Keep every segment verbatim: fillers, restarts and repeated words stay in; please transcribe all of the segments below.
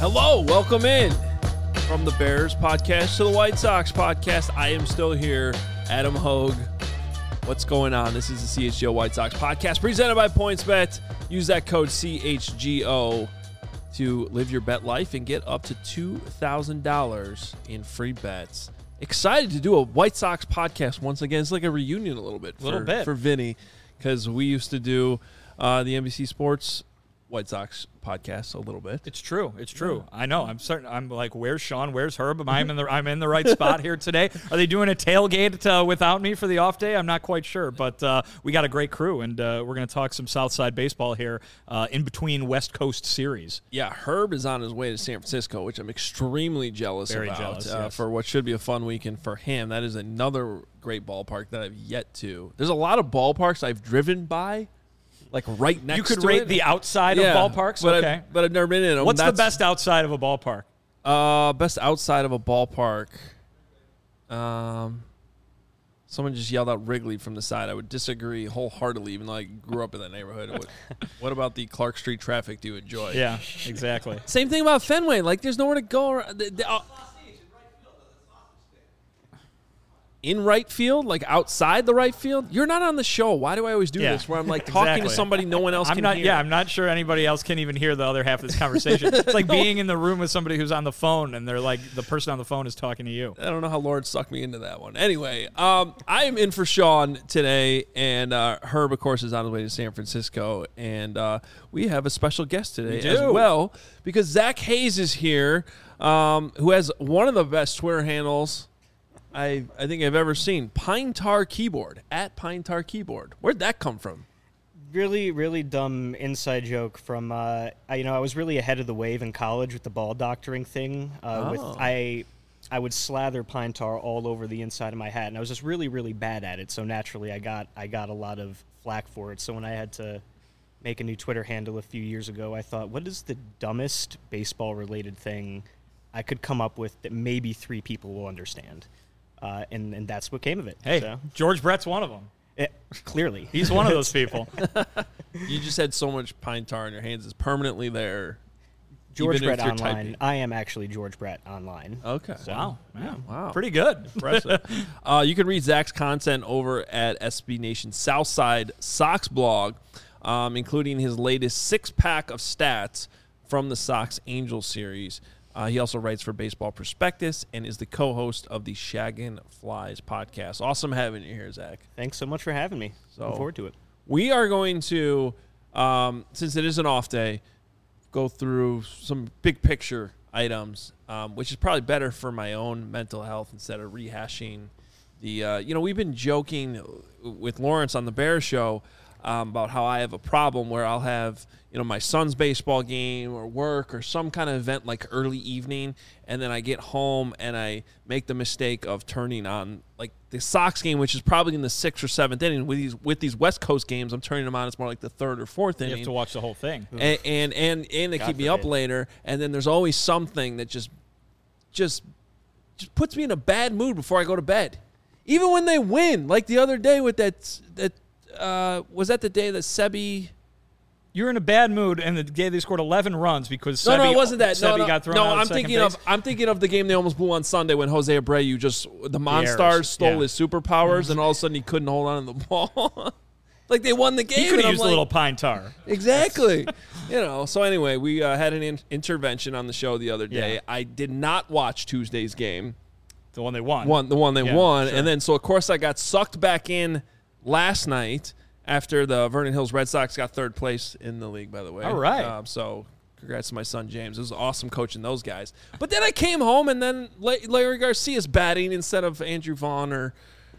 Hello, welcome in from the Bears podcast to the White Sox podcast. I am still here, Adam Hogue. What's going on? This is the C H G O White Sox podcast presented by PointsBet. Use that code C H G O to live your bet life and get up to two thousand dollars in free bets. Excited to do a White Sox podcast once again. It's like a reunion a little bit for, little bit. for Vinny, because we used to do uh, the N B C Sports White Sox podcast a little bit. It's true. It's true. I know. I'm certain. I'm like, where's Sean? Where's Herb? Am I in the I'm in the right spot here today? Are they doing a tailgate uh, without me for the off day? I'm not quite sure, but uh, we got a great crew, and uh, we're going to talk some Southside baseball here uh, in between West Coast series. Yeah, Herb is on his way to San Francisco, which I'm extremely jealous Very about jealous, uh, yes. for what should be a fun weekend for him. That is another great ballpark that I've yet to. There's a lot of ballparks I've driven by, like right next to it. You could rate the outside yeah, of ballparks? But Okay. I've, but I've never been in them. What's That's, the best outside of a ballpark? Uh, best outside of a ballpark. Um, someone just yelled out Wrigley from the side. I would disagree wholeheartedly, even though I grew up in that neighborhood. What, what about the Clark Street traffic do you enjoy? Yeah, exactly. Same thing about Fenway. Like, there's nowhere to go around. The, the, uh, in right field, like outside the right field, you're not on the show. Why do I always do Yeah, this? Where I'm like talking exactly. to somebody no one else I'm can not. hear. Yeah, I'm not sure anybody else can even hear the other half of this conversation. It's like being in the room with somebody who's on the phone, and they're like, the person on the phone is talking to you. I don't know how Lord sucked me into that one. Anyway, um, I am in for Sean today, and uh, Herb, of course, is on his way to San Francisco, and uh, we have a special guest today We as do. well, because Zach Hayes is here, um, who has one of the best Twitter handles I I think I've ever seen. Pine Tar Keyboard, at Pine Tar Keyboard. Where'd that come from? Really, really dumb inside joke from, uh, I, you know, I was really ahead of the wave in college with the ball doctoring thing. Uh, Oh. with I I would slather pine tar all over the inside of my hat, and I was just really, really bad at it. So naturally, I got I got a lot of flack for it. So when I had to make a new Twitter handle a few years ago, I thought, what is the dumbest baseball-related thing I could come up with that maybe three people will understand? Uh, and, and that's what came of it. Hey, So, George Brett's one of them. it, clearly. He's one of those people. You just had so much pine tar in your hands. It's permanently there. George even if Brett you're online. typing. I am actually George Brett online. Okay. So, Wow. Yeah. Wow. Pretty good. Impressive. uh, you can read Zach's content over at S B Nation Southside Sox blog, um, including his latest six-pack of stats from the Sox Angels series. Uh, he also writes for Baseball Prospectus and is the co-host of the Shaggin' Flies podcast. Awesome having you here, Zach. Thanks so much for having me. So- Looking forward to it. We are going to, um, since it is an off day, go through some big picture items, um, which is probably better for my own mental health instead of rehashing the, uh, you know, we've been joking with Lawrence on the Bears show um, about how I have a problem where I'll have, you know, my son's baseball game or work or some kind of event like early evening, and then I get home and I make the mistake of turning on like the Sox game, which is probably in the sixth or seventh inning. With these with these West Coast games, I'm turning them on. It's more like the third or fourth You inning. have to watch the whole thing. and and and, and they God keep me up forbid. later. And then there's always something that just just just puts me in a bad mood before I go to bed. Even when they win, like the other day with that that uh, was that the day that Sebi. You're in a bad mood, and the day they scored eleven runs because No, Sebi, no, it wasn't that. Sebi No, no, got thrown no out. I'm at second thinking base. of I'm thinking of the game they almost blew on Sunday when Jose Abreu just the Monstars errors, stole yeah. his superpowers, and all of a sudden he couldn't hold on to the ball. Like they won the game. He could and have I'm used like, a little pine tar. Exactly. You know, so anyway, we uh, had an in- intervention on the show the other day. Yeah. I did not watch Tuesday's game, The one they won. one the one they Yeah, won, sure. and then so of course I got sucked back in last night after the Vernon Hills Red Sox got third place in the league, by the way. All right. Um, so congrats to my son James. It was awesome coaching those guys. But then I came home and then La- Larry Garcia's batting instead of Andrew Vaughn or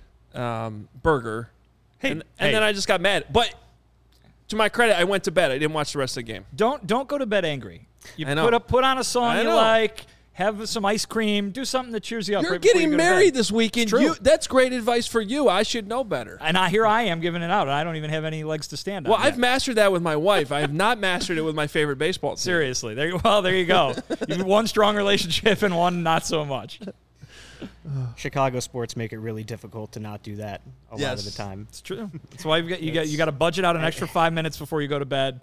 um, Berger. Hey, and, hey. and then I just got mad. But to my credit, I went to bed. I didn't watch the rest of the game. Don't don't go to bed angry. You I know. put up put on a song I you know. like. Have some ice cream. Do something that cheers you up. You're right before getting you go to married bed. this weekend. It's true. You, that's great advice for you. I should know better. And I, here I am giving it out, and I don't even have any legs to stand on. Well, yet. I've mastered that with my wife. I have not mastered it with my favorite baseball team. Seriously. There, well, there you go. You have one strong relationship and one not so much. Chicago sports make it really difficult to not do that a lot of the Yes. time. It's true. That's why you got you got you got to budget out an extra five minutes before you go to bed,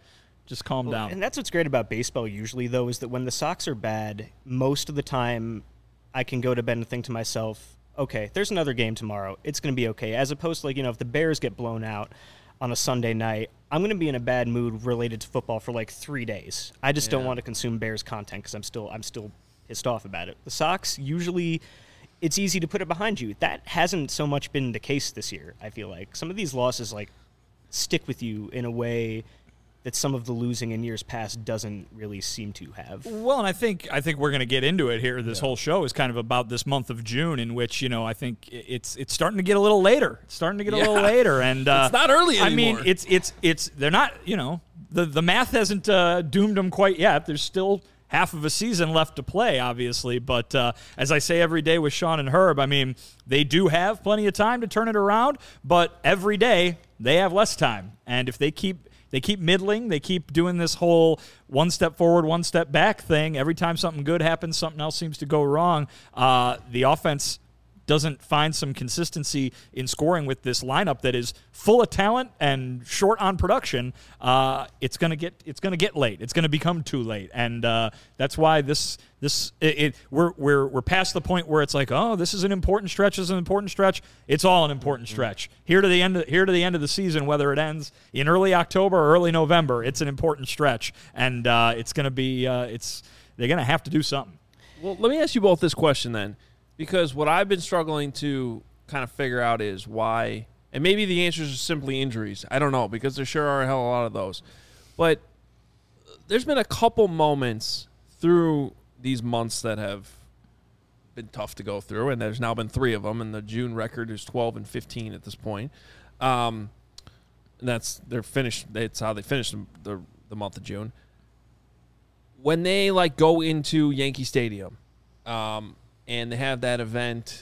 Just calm Well, down. And that's what's great about baseball usually, though, is that when the Sox are bad, most of the time I can go to bed and think to myself, okay, there's another game tomorrow. It's going to be okay. As opposed to, like, you know, if the Bears get blown out on a Sunday night, I'm going to be in a bad mood related to football for like three days. I just don't Yeah. want to consume Bears content because I'm still I'm still pissed off about it. The Sox, usually it's easy to put it behind you. That hasn't so much been the case this year, I feel like. Some of these losses, like, stick with you in a way that some of the losing in years past doesn't really seem to have. Well, and I think I think we're going to get into it here. This Yeah. whole show is kind of about this month of June, in which, you know, I think it's it's starting to get a little later. It's starting to get a Yeah. little later, and uh, It's not early I mean, anymore. it's it's it's they're not. You know, the the math hasn't uh, doomed them quite yet. There's still half of a season left to play, obviously. But uh, as I say every day with Sean and Herb, I mean, they do have plenty of time to turn it around, but every day they have less time, and if they keep They keep middling. They keep doing this whole one step forward, one step back thing. Every time something good happens, something else seems to go wrong. Uh, the offense doesn't find some consistency in scoring with this lineup that is full of talent and short on production. Uh, it's gonna get it's gonna get late. It's gonna become too late, and uh, that's why this this it, it we're we're we're past the point where it's like, oh, this is an important stretch. This is an important stretch. It's all an important stretch. Here to the end. Of, here to the end of the season, whether it ends in early October or early November, it's an important stretch, and uh, it's gonna be uh, it's they're gonna have to do something. Well, let me ask you both this question then, because what I've been struggling to kind of figure out is why, and maybe the answers are simply injuries. I don't know, because there sure are a hell of a lot of those. But there's been a couple moments through these months that have been tough to go through, and there's now been three of them, and the June record is twelve and fifteen at this point. Um, and that's they're finished. That's how they finished the the month of June. When they like go into Yankee Stadium, um, and they have that event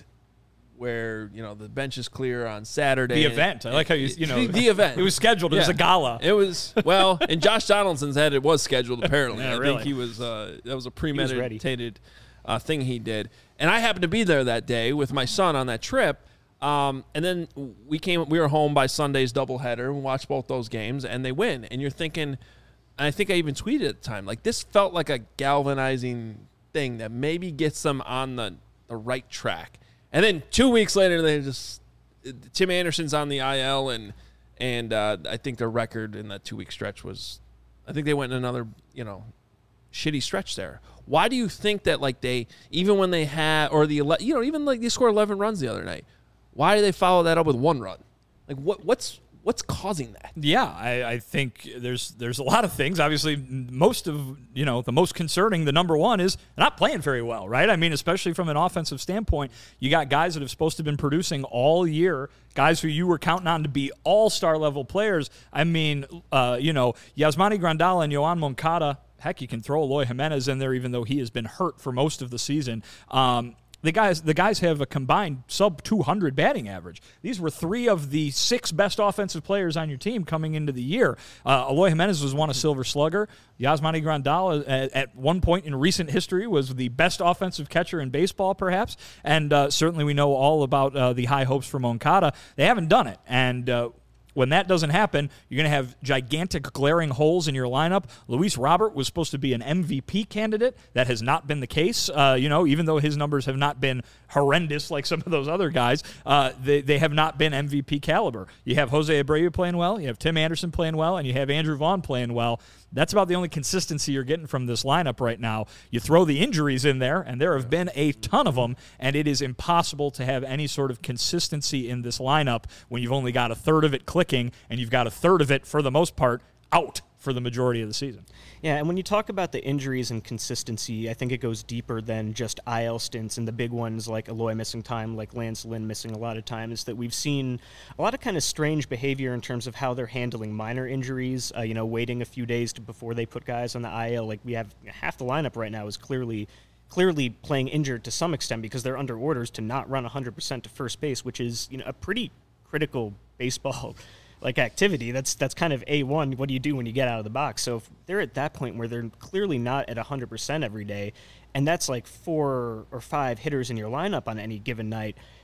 where, you know, the bench is clear on Saturday. The event. I like how you, you know. The, the event. It was scheduled. It was Yeah. a gala. It was, well, and Josh Donaldson's head, it was scheduled, apparently. Yeah, I really. think he was, uh, that was a was ready. premeditated uh, thing he did. And I happened to be there that day with my son on that trip. Um, and then we came, we were home by Sunday's doubleheader and watched both those games, and they win. And you're thinking, and I think I even tweeted at the time, like, this felt like a galvanizing thing that maybe gets them on the, the right track. And then two weeks later, they just Tim Anderson's on the I L, and and uh, I think their record in that two week stretch was, I think they went in another, you know, shitty stretch there. Why do you think that, like, they, even when they had, or the ele- you know, even like they scored eleven runs the other night, why do they follow that up with one run? Like, what what's what's causing that? Yeah, I, I think there's there's a lot of things. Obviously, most of, you know, the most concerning, the number one, is they're not playing very well, right? I mean, especially from an offensive standpoint, you got guys that have supposed to have been producing all year, guys who you were counting on to be all-star level players. I mean, uh, you know, Yasmani Grandal and Yoan Moncada, heck, you can throw Eloy Jimenez in there, even though he has been hurt for most of the season. Um, The guys, the guys have a combined sub two hundred batting average. These were three of the six best offensive players on your team coming into the year. Uh, Eloy Jimenez was won a Silver Slugger. Yasmani Grandal, at, at one point in recent history, was the best offensive catcher in baseball, perhaps. And uh, certainly we know all about uh, the high hopes for Moncada. They haven't done it. And uh, when that doesn't happen, you're going to have gigantic glaring holes in your lineup. Luis Robert was supposed to be an M V P candidate. That has not been the case. Uh, you know, even though his numbers have not been horrendous like some of those other guys, uh, they, they have not been M V P caliber. You have Jose Abreu playing well, you have Tim Anderson playing well, and you have Andrew Vaughn playing well. That's about the only consistency you're getting from this lineup right now. You throw the injuries in there, and there have been a ton of them, and it is impossible to have any sort of consistency in this lineup when you've only got a third of it clicking, and you've got a third of it, for the most part, out for the majority of the season. Yeah, and when you talk about the injuries and consistency, I think it goes deeper than just I L stints and the big ones like Eloy missing time, like Lance Lynn missing a lot of time, is that we've seen a lot of kind of strange behavior in terms of how they're handling minor injuries, uh, you know, waiting a few days to, before they put guys on the I L. Like, we have half the lineup right now is clearly clearly playing injured to some extent because they're under orders to not run one hundred percent to first base, which is, you know, a pretty critical baseball like activity. That's that's kind of A one. What do you do when you get out of the box? So if they're at that point where they're clearly not at one hundred percent every day, and that's like four or five hitters in your lineup on any given night,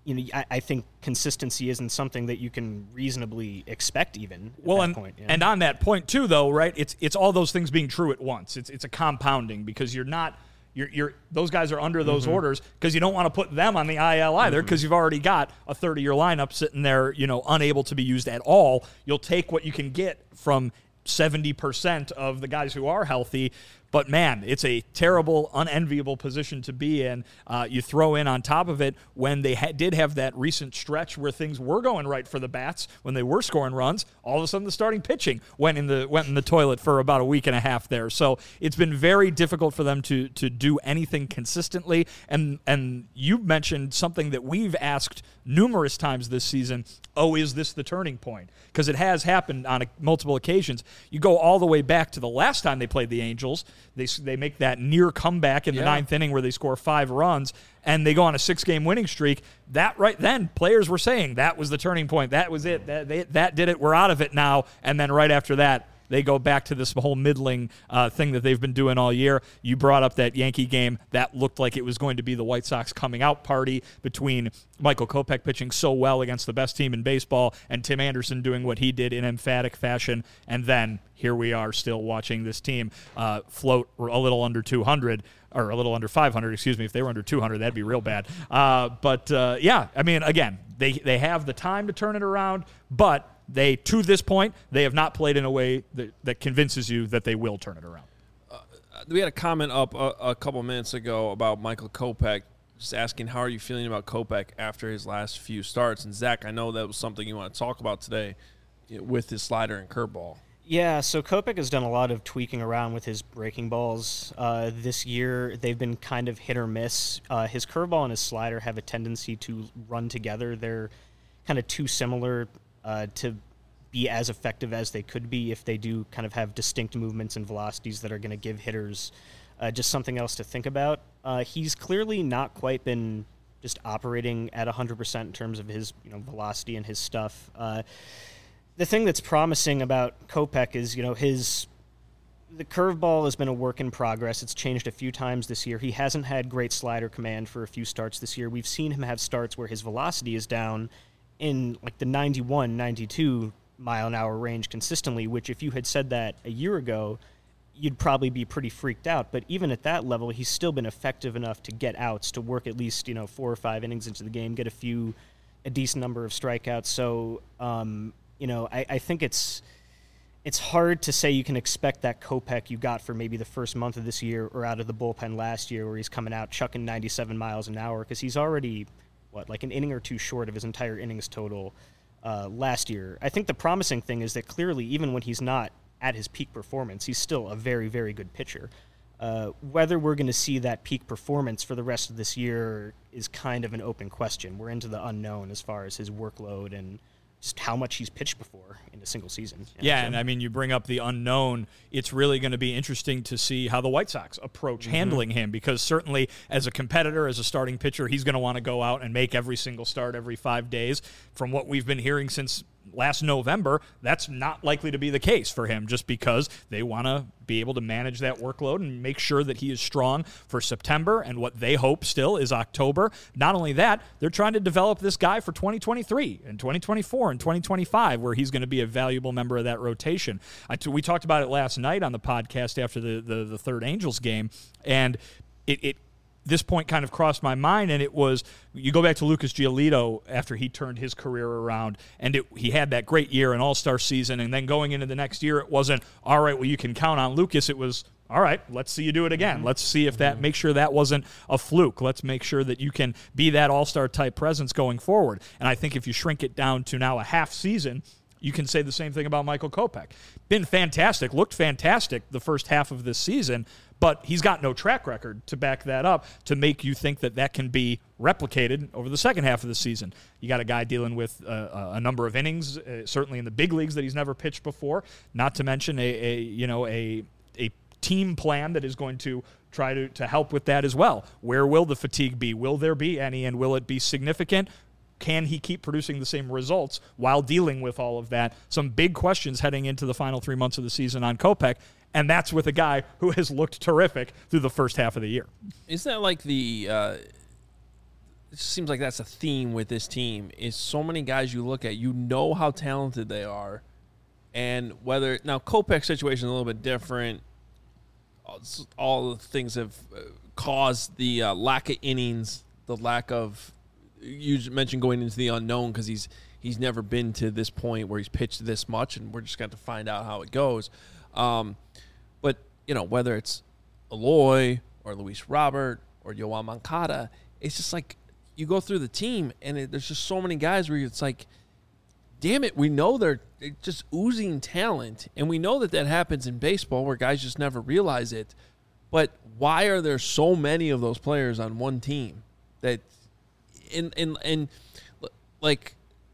you know, I, I think consistency isn't something that you can reasonably expect even at well, that and, point. Yeah. and on that point too, though, right? It's it's all those things being true at once. It's it's a compounding because you're not you're you're those guys are under those mm-hmm. orders because you don't want to put them on the I L either because mm-hmm. you've already got a thirty-year lineup sitting there, you know, unable to be used at all. You'll take what you can get from seventy percent of the guys who are healthy. But, man, it's a terrible, unenviable position to be in. Uh, you throw in on top of it when they ha- did have that recent stretch where things were going right for the Bats, when they were scoring runs, all of a sudden the starting pitching went in the went in the toilet for about a week and a half there. So it's been very difficult for them to to do anything consistently. And, and you mentioned something that we've asked numerous times this season, oh, is this the turning point? Because it has happened on a, multiple occasions. You go all the way back to the last time they played the Angels. They they make that near comeback in the yeah. ninth inning where they score five runs, and they go on a six-game winning streak. That right then, players were saying that was the turning point. That was it. That, they, that did it. We're out of it now. And then right after that, they go back to this whole middling uh, thing that they've been doing all year. You brought up that Yankee game. That looked like it was going to be the White Sox coming out party between Michael Kopech pitching so well against the best team in baseball and Tim Anderson doing what he did in emphatic fashion. And then here we are still watching this team uh, float a little under two hundred, or a little under five hundred, excuse me. If they were under two hundred, that'd be real bad. Uh, but, uh, yeah, I mean, again, they, they have the time to turn it around, but they, to this point, they have not played in a way that, that convinces you that they will turn it around. Uh, we had a comment up a, a couple minutes ago about Michael Kopech, just asking how are you feeling about Kopech after his last few starts. And, Zach, I know that was something you want to talk about today with his slider and curveball. Yeah, so Kopech has done a lot of tweaking around with his breaking balls uh, this year. They've been kind of hit or miss. Uh, his curveball and his slider have a tendency to run together. They're kind of too similar uh, to be as effective as they could be if they do kind of have distinct movements and velocities that are going to give hitters uh, just something else to think about. Uh, he's clearly not quite been just operating at one hundred percent in terms of his you know velocity and his stuff. Uh, the thing that's promising about Kopech is you know his the curveball has been a work in progress. It's changed a few times this year. He hasn't had great slider command for a few starts this year. We've seen him have starts where his velocity is down in like the ninety-one, ninety-two mile an hour range consistently, which if you had said that a year ago, you'd probably be pretty freaked out. But even at that level, he's still been effective enough to get outs, to work at least, you know, four or five innings into the game, get a few, a decent number of strikeouts. So, um, you know, I, I think it's it's hard to say you can expect that Kopech you got for maybe the first month of this year or out of the bullpen last year where he's coming out chucking ninety-seven miles an hour because he's already, what, like an inning or two short of his entire innings total Uh, last year. I think the promising thing is that clearly, even when he's not at his peak performance, he's still a very, very good pitcher. Uh, whether we're going to see that peak performance for the rest of this year is kind of an open question. We're into the unknown as far as his workload and just how much he's pitched before in a single season. You know, yeah, so. and I mean, you bring up the unknown. It's really going to be interesting to see how the White Sox approach mm-hmm. handling him because certainly as a competitor, as a starting pitcher, he's going to want to go out and make every single start every five days. From what we've been hearing since last November, that's not likely to be the case for him just because they want to be able to manage that workload and make sure that he is strong for September and what they hope still is October. Not only that, they're trying to develop this guy for twenty twenty-three and twenty twenty-four and twenty twenty-five where he's going to be a valuable member of that rotation. I t- we talked about it last night on the podcast after the, the, the third Angels game, and it, it this point kind of crossed my mind, and it was, you go back to Lucas Giolito after he turned his career around, and it, he had that great year, an all-star season, and then going into the next year, it wasn't, all right, well, you can count on Lucas. It was, all right, let's see you do it again. Mm-hmm. Let's see if that, mm-hmm. make sure that wasn't a fluke. Let's make sure that you can be that all-star type presence going forward. And I think if you shrink it down to now a half season, you can say the same thing about Michael Kopech. Been fantastic, looked fantastic the first half of this season, but he's got no track record to back that up to make you think that that can be replicated over the second half of the season. You got a guy dealing with uh, a number of innings, uh, certainly in the big leagues that he's never pitched before, not to mention a, a you know a a team plan that is going to try to, to help with that as well. Where will the fatigue be? Will there be any, and will it be significant? Can he keep producing the same results while dealing with all of that? Some big questions heading into the final three months of the season on Kopech, and that's with a guy who has looked terrific through the first half of the year. Isn't that like the uh, it just seems like that's a theme with this team. Is so many guys you look at, you know how talented they are, and whether now Kopech's situation is a little bit different. All the things have caused the uh, lack of innings, the lack of you mentioned going into the unknown because he's he's never been to this point where he's pitched this much, and we're just going to find out how it goes. Um, but you know, whether it's Eloy or Luis Robert or Yoan Moncada, it's just like you go through the team, and it, there's just so many guys where it's like, damn it, we know they're just oozing talent, and we know that that happens in baseball where guys just never realize it. But why are there so many of those players on one team that, in in and like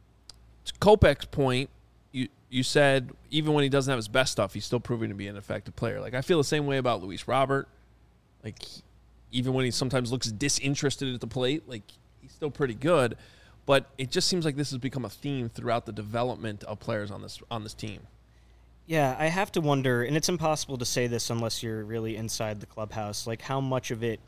to Kopech's point, you you said even when he doesn't have his best stuff, he's still proving to be an effective player. Like I feel the same way about Luis Robert. Like he, even when he sometimes looks disinterested at the plate, like he's still pretty good. But it just seems like this has become a theme throughout the development of players on this on this team. Yeah, I have to wonder, and it's impossible to say this unless you're really inside the clubhouse, like how much of it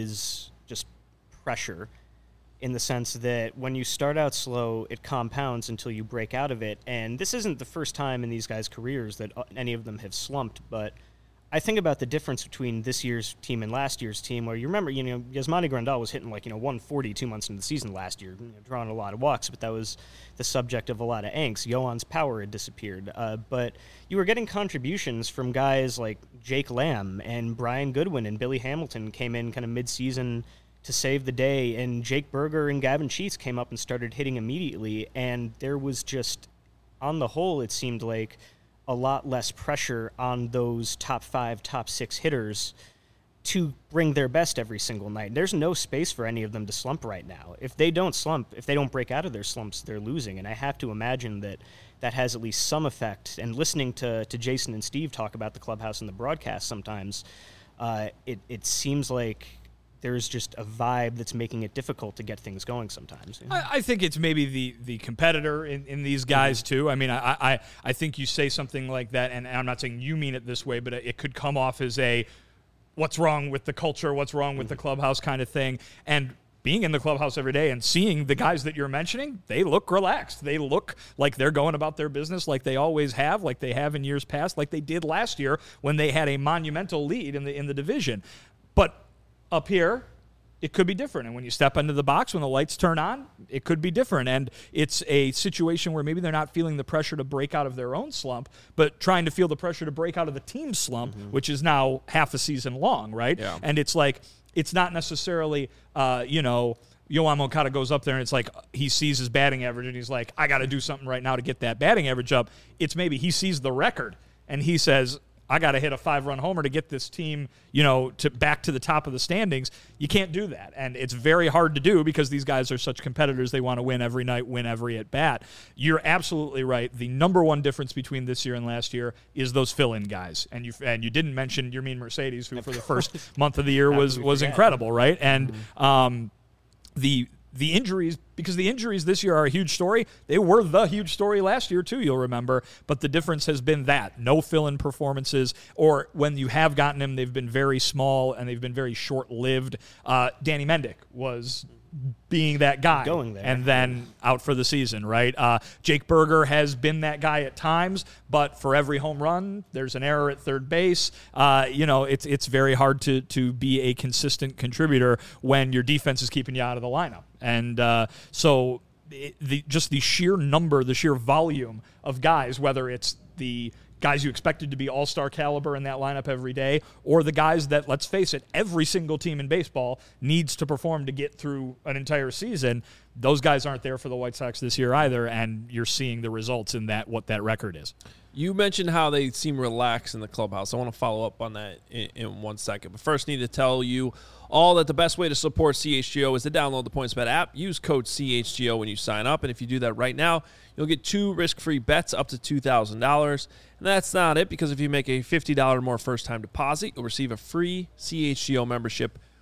is just pressure in the sense that when you start out slow, it compounds until you break out of it. And this isn't the first time in these guys' careers that any of them have slumped, but I think about the difference between this year's team and last year's team, where you remember, you know, Yasmani Grandal was hitting like, you know, one forty two months into the season last year, you know, drawing a lot of walks, but that was the subject of a lot of angst. Yoan's power had disappeared. Uh, but you were getting contributions from guys like Jake Lamb and Brian Goodwin, and Billy Hamilton came in kind of mid-season to save the day, and Jake Berger and Gavin Sheets came up and started hitting immediately, and there was just, on the whole, it seemed like a lot less pressure on those top five, top six hitters to bring their best every single night. There's no space for any of them to slump right now. If they don't slump, if they don't break out of their slumps, they're losing. And I have to imagine that that has at least some effect. And listening to, to Jason and Steve talk about the clubhouse and the broadcast sometimes, uh, it, it seems like there's just a vibe that's making it difficult to get things going sometimes. You know? I, I think it's maybe the the competitor in, in these guys, mm-hmm. too. I mean, I, I I think you say something like that, and I'm not saying you mean it this way, but it could come off as a what's wrong with the culture, what's wrong with mm-hmm. the clubhouse kind of thing. And being in the clubhouse every day and seeing the guys that you're mentioning, they look relaxed. They look like they're going about their business like they always have, like they have in years past, like they did last year when they had a monumental lead in the in the division. But up here, it could be different. And when you step into the box, when the lights turn on, it could be different. And it's a situation where maybe they're not feeling the pressure to break out of their own slump, but trying to feel the pressure to break out of the team slump, mm-hmm. which is now half a season long, right? Yeah. And it's like, it's not necessarily, uh, you know, Yoan Moncada goes up there and it's like he sees his batting average and he's like, I got to do something right now to get that batting average up. It's maybe he sees the record and he says, I got to hit a five-run homer to get this team, you know, to back to the top of the standings. You can't do that, and it's very hard to do because these guys are such competitors. They want to win every night, win every at-bat. You're absolutely right. The number one difference between this year and last year is those fill-in guys, and you and you didn't mention Yermin Mercedes, who for the first month of the year was was incredible, right? And um, the The injuries, because the injuries this year are a huge story. They were the huge story last year, too, you'll remember. But the difference has been that. No fill-in performances, or when you have gotten them, they've been very small and they've been very short-lived. Uh, Danny Mendick was being that guy going there and then out for the season, right? Uh, Jake Berger has been that guy at times, but for every home run, there's an error at third base. Uh, you know, it's it's very hard to to be a consistent contributor when your defense is keeping you out of the lineup. And uh, so it, the just the sheer number, the sheer volume of guys, whether it's the guys you expected to be all-star caliber in that lineup every day, or the guys that, let's face it, every single team in baseball needs to perform to get through an entire season. Those guys aren't there for the White Sox this year either, and you're seeing the results in that, what that record is. You mentioned how they seem relaxed in the clubhouse. I want to follow up on that in, in one second. But first, I need to tell you all that the best way to support C H G O is to download the PointsBet app. Use code C H G O when you sign up. And if you do that right now, you'll get two risk-free bets up to two thousand dollars. And that's not it, because if you make a fifty dollars or more first-time deposit, you'll receive a free C H G O membership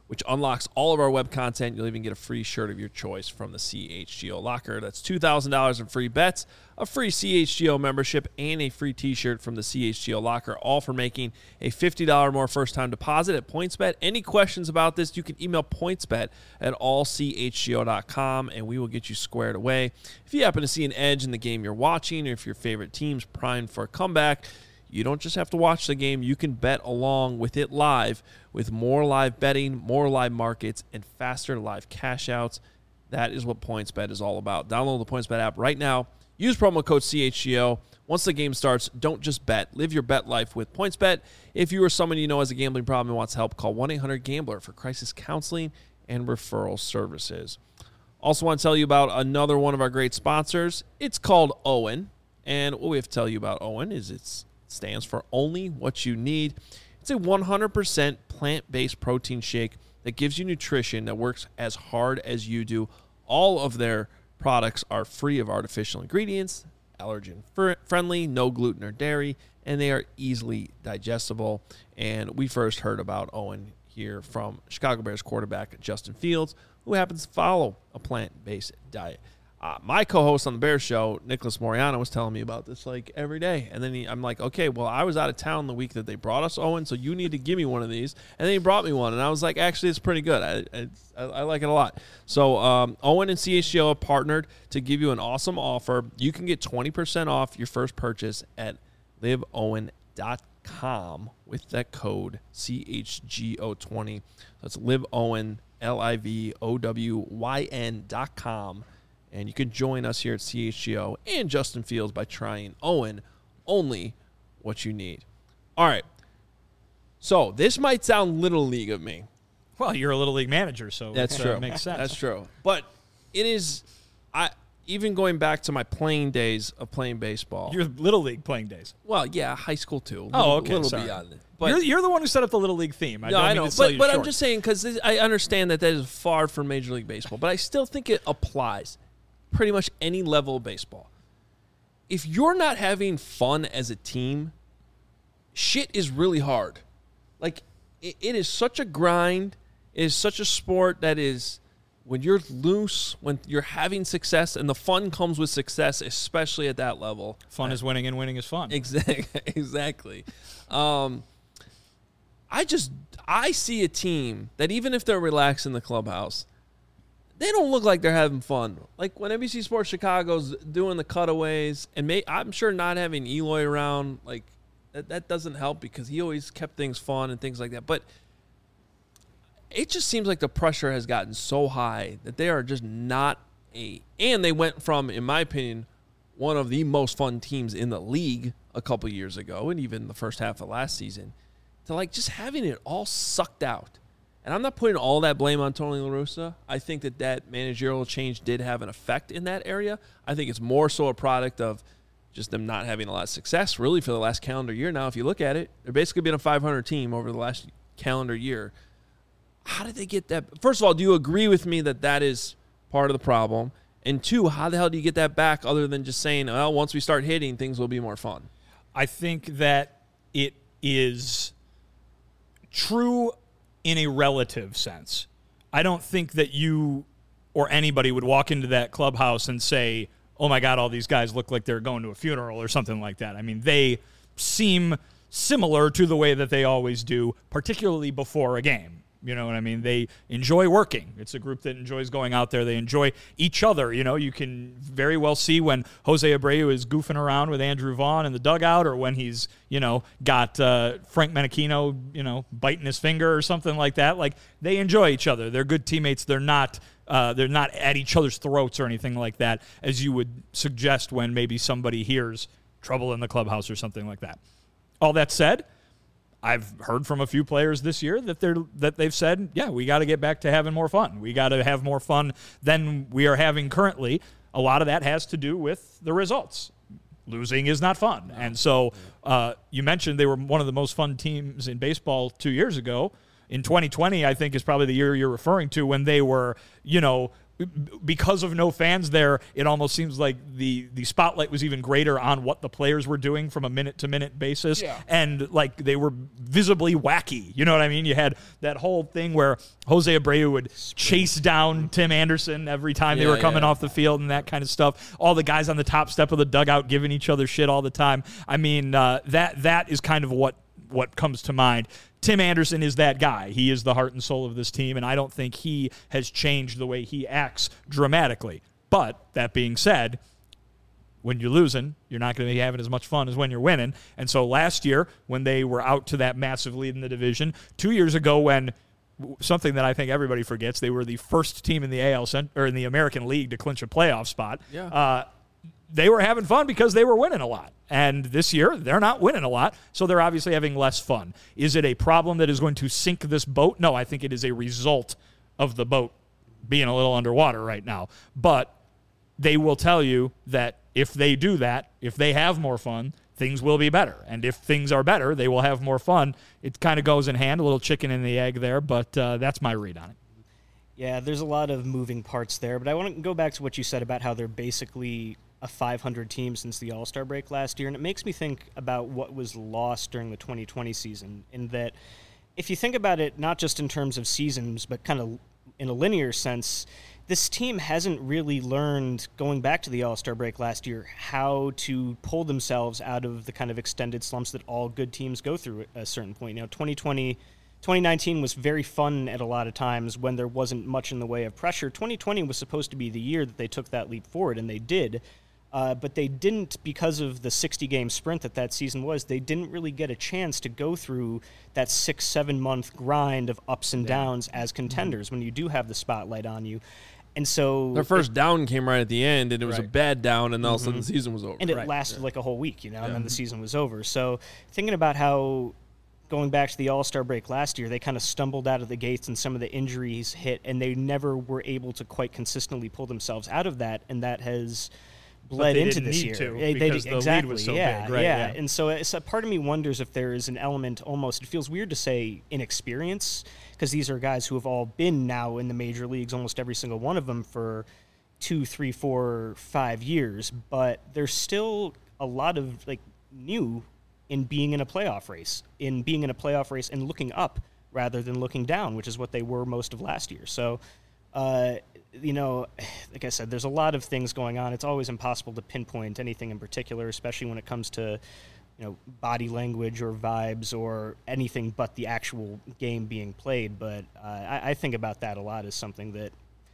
which unlocks all of our web content. You'll even get a free shirt of your choice from the C H G O Locker. That's two thousand dollars in free bets, a free C H G O membership, and a free t-shirt from the C H G O Locker, all for making a fifty dollars more first-time deposit at PointsBet. Any questions about this, you can email pointsbet at all c h g o dot com, and we will get you squared away. If you happen to see an edge in the game you're watching, or if your favorite team's primed for a comeback, you don't just have to watch the game. You can bet along with it live with more live betting, more live markets, and faster live cash outs. That is what PointsBet is all about. Download the PointsBet app right now. Use promo code C H G O. Once the game starts, don't just bet. Live your bet life with PointsBet. If you or someone you know has a gambling problem and wants help, call one eight hundred gambler for crisis counseling and referral services. Also want to tell you about another one of our great sponsors. It's called Owen. And what we have to tell you about Owen is it's stands for Only What You Need. It's a one hundred percent plant-based protein shake that gives you nutrition that works as hard as you do. All of their products are free of artificial ingredients, allergen-friendly, no gluten or dairy, and they are easily digestible. And we first heard about Owen here from Chicago Bears quarterback Justin Fields, who happens to follow a plant-based diet. Uh, my co-host on the Bears show, Nicholas Moriano, was telling me about this like every day. And then he, I'm like, okay, well, I was out of town the week that they brought us Owen, so you need to give me one of these. And then he brought me one, and I was like, actually, it's pretty good. I I, I like it a lot. So um, Owen and C H G O have partnered to give you an awesome offer. You can get twenty percent off your first purchase at live owen dot com with that code C H G O twenty. That's LiveOwen, L I V O W Y N dot com. And you can join us here at C H G O and Justin Fields by trying Owen, Only What You Need. All right. So this might sound Little League of me. Well, you're a Little League manager, so that's it true. Uh, makes sense. That's true. But it is, I even going back to my playing days of playing baseball. Your Little League playing days. Well, yeah, high school too. Little, Oh, okay. little Sorry. beyond it. But You're, you're the one who set up the Little League theme. I no, don't I mean know, to sell but, you but I'm short. just saying because I understand that that is far from Major League Baseball, but I still think it applies pretty much any level of baseball. If you're not having fun as a team, shit is really hard. Like, it, it is such a grind. It is such a sport that is, when you're loose, when you're having success, and the fun comes with success, especially at that level. Fun is winning and winning is fun. Exactly. Exactly. Um, I just, I see a team that even if they're relaxed in the clubhouse, they don't look like they're having fun. Like when N B C Sports Chicago's doing the cutaways, and may, I'm sure not having Eloy around, like that, that doesn't help because he always kept things fun and things like that. But it just seems like the pressure has gotten so high that they are just not a – and they went from, in my opinion, one of the most fun teams in the league a couple years ago and even the first half of last season to like just having it all sucked out. And I'm not putting all that blame on Tony La Russa. I think that that managerial change did have an effect in that area. I think it's more so a product of just them not having a lot of success, really, for the last calendar year now. If you look at it, they're basically been a five hundred team over the last calendar year. How did they get that? First of all, do you agree with me that that is part of the problem? And two, how the hell do you get that back other than just saying, well, once we start hitting, things will be more fun? I think that it is true in a relative sense. I don't think that you or anybody would walk into that clubhouse and say, oh my God, all these guys look like they're going to a funeral or something like that. I mean, they seem similar to the way that they always do, particularly before a game. You know what I mean? They enjoy working. It's a group that enjoys going out there. They enjoy each other. You know, you can very well see when Jose Abreu is goofing around with Andrew Vaughn in the dugout, or when he's, you know, got uh, Frank Menachino, you know, biting his finger or something like that. Like, they enjoy each other. They're good teammates. They're not uh, they're not at each other's throats or anything like that, as you would suggest when maybe somebody hears trouble in the clubhouse or something like that. All that said, I've heard from a few players this year that they're that they've said, yeah, we got to get back to having more fun. We got to have more fun than we are having currently. A lot of that has to do with the results. Losing is not fun. And so uh, you mentioned they were one of the most fun teams in baseball two years ago. In twenty twenty, I think, is probably the year you're referring to when they were, you know, because of no fans there, it almost seems like the the spotlight was even greater on what the players were doing from a minute to minute basis. Yeah. And like they were visibly wacky. You know what I mean? You had that whole thing where Jose Abreu would chase down Tim Anderson every time they Yeah, were coming yeah. off the field and that kind of stuff. All the guys on the top step of the dugout giving each other shit all the time. I mean, uh, that that is kind of what what comes to mind. Tim Anderson is that guy. He is the heart and soul of this team, and I don't think he has changed the way he acts dramatically. But that being said, when you're losing, you're not going to be having as much fun as when you're winning. And so last year, when they were out to that massive lead in the division, two years ago when something that I think everybody forgets, they were the first team in the A L Cent- or in the American League to clinch a playoff spot. Yeah. Uh, they were having fun because they were winning a lot. And this year, they're not winning a lot, so they're obviously having less fun. Is it a problem that is going to sink this boat? No, I think it is a result of the boat being a little underwater right now. But they will tell you that if they do that, if they have more fun, things will be better. And if things are better, they will have more fun. It kind of goes in hand, a little chicken and the egg there, but uh, that's my read on it. Yeah, there's a lot of moving parts there, but I want to go back to what you said about how they're basically a five hundred team since the All-Star break last year, and it makes me think about what was lost during the twenty twenty season, in that if you think about it not just in terms of seasons, but kind of in a linear sense, this team hasn't really learned, going back to the All-Star break last year, how to pull themselves out of the kind of extended slumps that all good teams go through at a certain point. You know, twenty twenty twenty nineteen was very fun at a lot of times when there wasn't much in the way of pressure. twenty twenty was supposed to be the year that they took that leap forward, and they did. Uh, but they didn't, because of the sixty-game sprint that that season was, they didn't really get a chance to go through that six, seven-month grind of ups and downs as contenders when you do have the spotlight on you. And so Their first down came right at the end, and it was a Right. bad down, and all of a sudden the season was over. and it Right. lasted like a whole week, you know, and then the season was over. So thinking about how, going back to the All-Star break last year, they kind of stumbled out of the gates and some of the injuries hit, and they never were able to quite consistently pull themselves out of that, and that has bled they into didn't this need year. to, They- they because did- the lead exactly, was so yeah, big, right, yeah. yeah. And so it's a part of me wonders if there is an element almost, it feels weird to say inexperience, because these are guys who have all been now in the major leagues, almost every single one of them, for two, three, four, five years, but there's still a lot of like new in being in a playoff race, in being in a playoff race and looking up rather than looking down, which is what they were most of last year. So, uh, you know, like I said, there's a lot of things going on. It's always impossible to pinpoint anything in particular, especially when it comes to, you know, body language or vibes or anything but the actual game being played. But uh, I, I think about that a lot as something that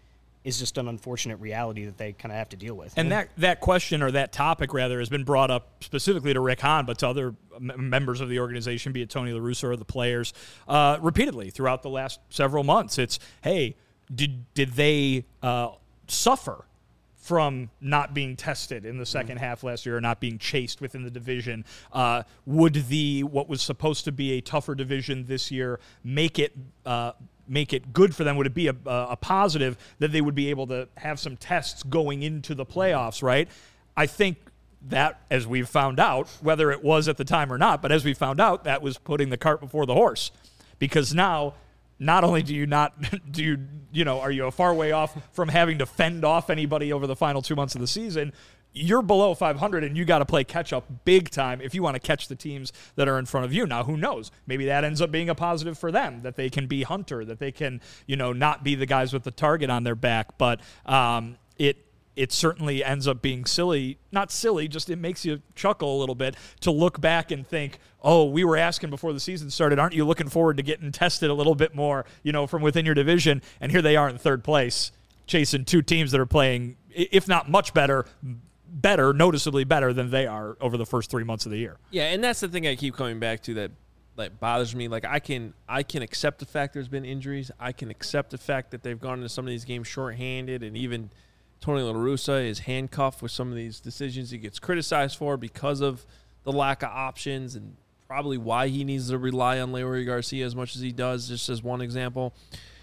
is just an unfortunate reality that they kind of have to deal with. And that, that question, or that topic rather, has been brought up specifically to Rick Hahn, but to other m- members of the organization, be it Tony La Russa or the players, uh, repeatedly throughout the last several months. It's, hey, did did they uh, suffer from not being tested in the second mm-hmm. half last year, or not being chased within the division? Uh, would the what was supposed to be a tougher division this year make it uh, make it good for them? Would it be a, a positive that they would be able to have some tests going into the playoffs, right? I think that, as we've found out, whether it was at the time or not, but as we found out, that was putting the cart before the horse. Because now, not only do you not, do you, you know, are you a far way off from having to fend off anybody over the final two months of the season, you're below five hundred, and you got to play catch-up big time if you want to catch the teams that are in front of you. Now, who knows? Maybe that ends up being a positive for them, that they can be Hunter, that they can, you know, not be the guys with the target on their back. But um, it it certainly ends up being silly. Not silly, just it makes you chuckle a little bit to look back and think, oh, we were asking before the season started, aren't you looking forward to getting tested a little bit more, you know, from within your division? And here they are in third place, chasing two teams that are playing, if not much better, better, noticeably better than they are over the first three months of the year. Yeah, and that's the thing I keep coming back to that that bothers me. Like, I can I can accept the fact there's been injuries. I can accept the fact that they've gone into some of these games shorthanded, and even Tony La Russa is handcuffed with some of these decisions he gets criticized for because of the lack of options, and probably why he needs to rely on Leury Garcia as much as he does, just as one example.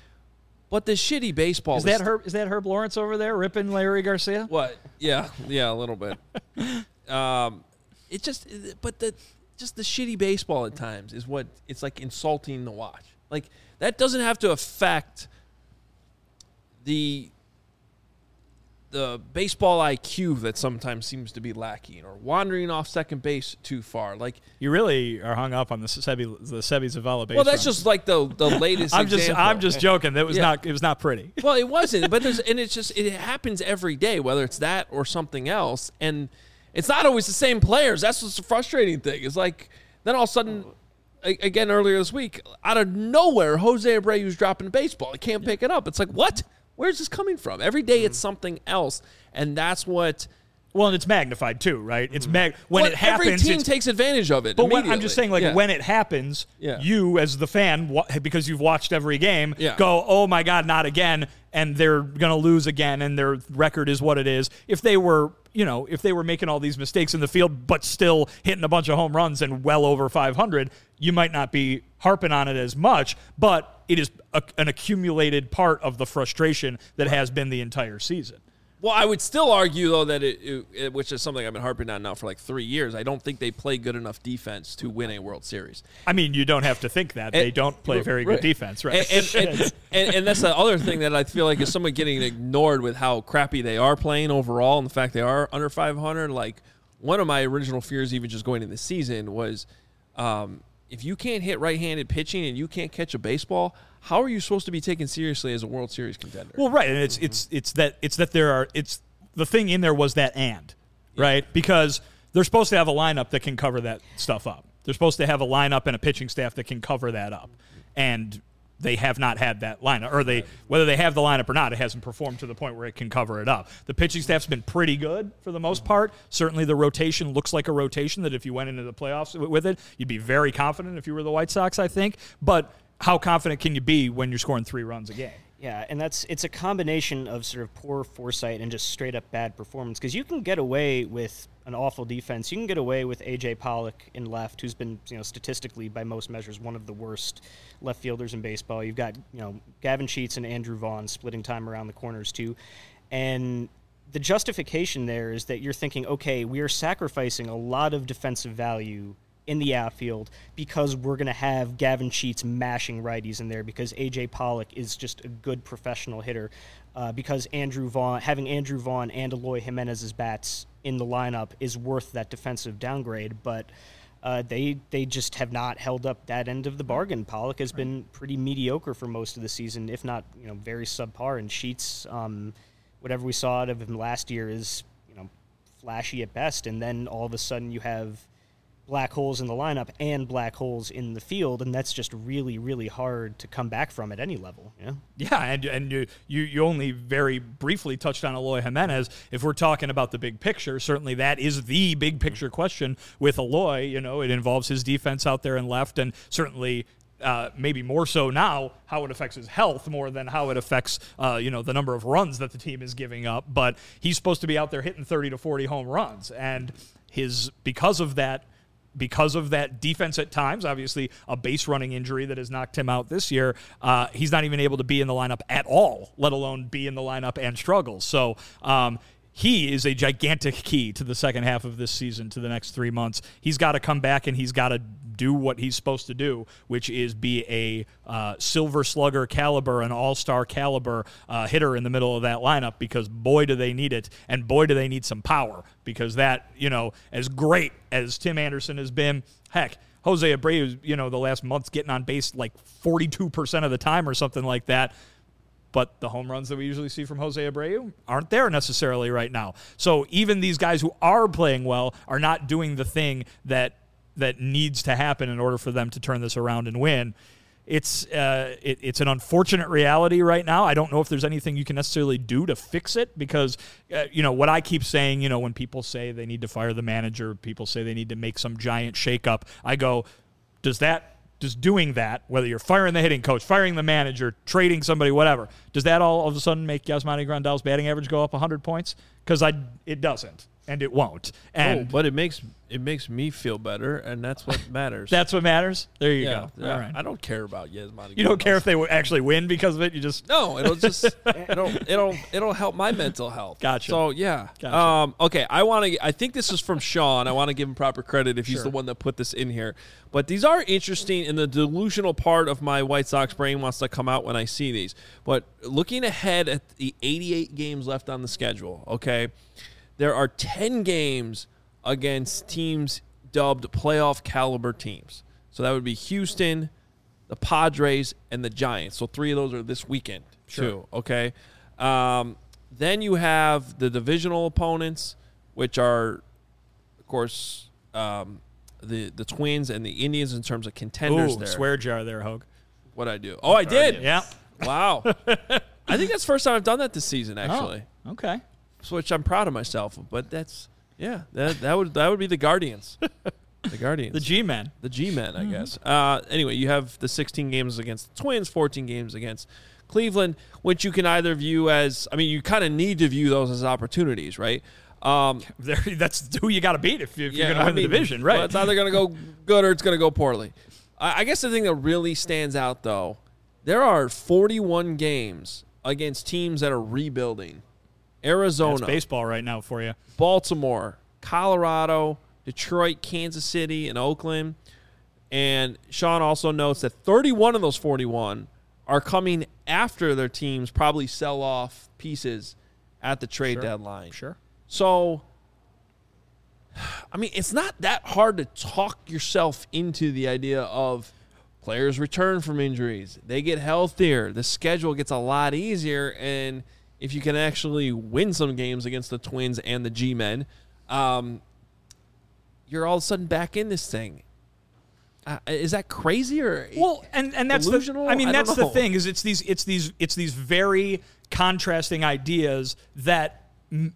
But the shitty baseball is that Herb? Is that Herb Lawrence over there ripping Leury Garcia? What? Yeah, yeah, a little bit. um, it just, but the just the shitty baseball at times is what it's like insulting to watch. Like, that doesn't have to affect the the baseball I Q that sometimes seems to be lacking, or wandering off second base too far. Like you really are hung up on the Sebi, the Sebi Zavala base. Well, that's run. just like the the latest. I'm just example. I'm just joking. That was Yeah. not it was not pretty. Well, it wasn't, but there's and it's just it happens every day, whether it's that or something else, and it's not always the same players. That's what's the frustrating thing. It's like then all of a sudden, a- again earlier this week, out of nowhere, Jose Abreu's dropping a baseball. He can't pick it up. It's like what? Where's this coming from? Every day it's something else, and that's what. Well, and it's magnified too, right? It's mag when Well, it happens. every team it's, takes advantage of it. But when, I'm immediately. just saying, like Yeah. when it happens, Yeah. you as the fan, wa- because you've watched every game, Yeah. go, "Oh my God, not again!" And they're gonna lose again, and their record is what it is. If they were, you know, if they were making all these mistakes in the field, but still hitting a bunch of home runs and well over five hundred, you might not be harping on it as much. But it is a, an accumulated part of the frustration that has been the entire season. Well, I would still argue, though, that it, it, it, which is something I've been harping on now for like three years, I don't think they play good enough defense to win a World Series. I mean, you don't have to think that. They And- don't play very right. good defense, right? And, and, and, and, and that's the other thing that I feel like is somewhat getting ignored with how crappy they are playing overall and the fact they are under five hundred. Like, one of my original fears, even just going into the season, was um, if you can't hit right-handed pitching and you can't catch a baseball, how are you supposed to be taken seriously as a World Series contender? Well, right, and it's it's it's that it's that there are it's the thing in there was that and right because they're supposed to have a lineup that can cover that stuff up. They're supposed to have a lineup and a pitching staff that can cover that up, and they have not had that lineup, or they whether they have the lineup or not, it hasn't performed to the point where it can cover it up. The pitching staff's been pretty good for the most part. Certainly, the rotation looks like a rotation that if you went into the playoffs with it, you'd be very confident if you were the White Sox, I think, but how confident can you be when you're scoring three runs a game? Yeah, and that's it's a combination of sort of poor foresight and just straight up bad performance. Because you can get away with an awful defense. You can get away with A J Pollock in left, who's been, you know, statistically by most measures one of the worst left fielders in baseball. You've got, you know, Gavin Sheets and Andrew Vaughn splitting time around the corners too, and the justification there is that you're thinking, okay, we are sacrificing a lot of defensive value in the outfield because we're going to have Gavin Sheets mashing righties in there because A J Pollock is just a good professional hitter, uh, because Andrew Vaughn, having Andrew Vaughn and Eloy Jimenez's bats in the lineup is worth that defensive downgrade, but uh, they they just have not held up that end of the bargain. Pollock has been pretty mediocre for most of the season, if not, you know, very subpar, and Sheets, um, whatever we saw out of him last year is, you know, flashy at best, and then all of a sudden you have black holes in the lineup and black holes in the field, and that's just really, really hard to come back from at any level. Yeah, yeah, and and you you, you only very briefly touched on Eloy Jimenez. If we're talking about the big picture, certainly that is the big picture question with Eloy. You know, it involves his defense out there and left, and certainly uh, maybe more so now how it affects his health more than how it affects uh, you know the number of runs that the team is giving up. But he's supposed to be out there hitting thirty to forty home runs, and his because of that. Because of that defense at times, obviously a base running injury that has knocked him out this year, uh, he's not even able to be in the lineup at all, let alone be in the lineup and struggle. So um, he is a gigantic key to the second half of this season, to the next three months. He's got to come back and he's got to do what he's supposed to do, which is be a uh, silver slugger caliber, an all-star caliber uh, hitter in the middle of that lineup, because boy, do they need it, and boy, do they need some power, because that, you know, as great as Tim Anderson has been, heck, Jose Abreu, you know, the last month's getting on base like forty-two percent of the time or something like that. But the home runs that we usually see from Jose Abreu aren't there necessarily right now. So even these guys who are playing well are not doing the thing that that needs to happen in order for them to turn this around and win. It's uh, it, it's an unfortunate reality right now. I don't know if there's anything you can necessarily do to fix it because, uh, you know, what I keep saying, you know, when people say they need to fire the manager, people say they need to make some giant shakeup, I go, does that Just doing that, whether you're firing the hitting coach, firing the manager, trading somebody, whatever, does that all of a sudden make Yasmani Grandal's batting average go up one hundred points? Because I, it doesn't. and it won't. Oh, And but it makes it makes me feel better, and that's what matters. that's what matters. There you yeah, go. yeah. All right. I don't care about Yasmani. You don't care if they w- actually win because of it. You just No, it'll just it'll it'll it'll help my mental health. Gotcha. So yeah. Gotcha. Um. Okay. I want to. I think this is from Sean. I want to give him proper credit if he's Sure. the one that put this in here. But these are interesting, and the delusional part of my White Sox brain wants to come out when I see these. But looking ahead at the eighty-eight games left on the schedule, okay, there are ten games against teams dubbed playoff caliber teams. So that would be Houston, the Padres, and the Giants. So three of those are this weekend, Sure. too, okay? Um, then you have the divisional opponents, which are, of course, um, the the Twins and the Indians in terms of contenders ooh, there. swear jar there, Hogue. What'd I do? Oh, I did? Yeah. Wow. I think that's the first time I've done that this season, actually. Oh, okay. So, which I'm proud of myself of. But that's, yeah, that, that would that would be the Guardians. The Guardians. The G-men. The G-men, I guess. Uh, anyway, you have the sixteen games against the Twins, fourteen games against Cleveland, which you can either view as, I mean, you kind of need to view those as opportunities, right? Um, There, that's who you got to beat if, if yeah, you're going to win I mean, the division, right? well, it's either going to go good or it's going to go poorly. I, I guess the thing that really stands out, though, there are forty-one games against teams that are rebuilding. Arizona, That's baseball right now for you. Baltimore, Colorado, Detroit, Kansas City, and Oakland. And Sean also notes that thirty-one of those forty-one are coming after their teams probably sell off pieces at the trade Sure. deadline. Sure. So, I mean, it's not that hard to talk yourself into the idea of players return from injuries. They get healthier. The schedule gets a lot easier. And if you can actually win some games against the Twins and the G-men, um, you're all of a sudden back in this thing. Uh, is that crazy or Well, and, and that's delusional? the I mean I don't that's the know. thing is it's these it's these it's these very contrasting ideas that m-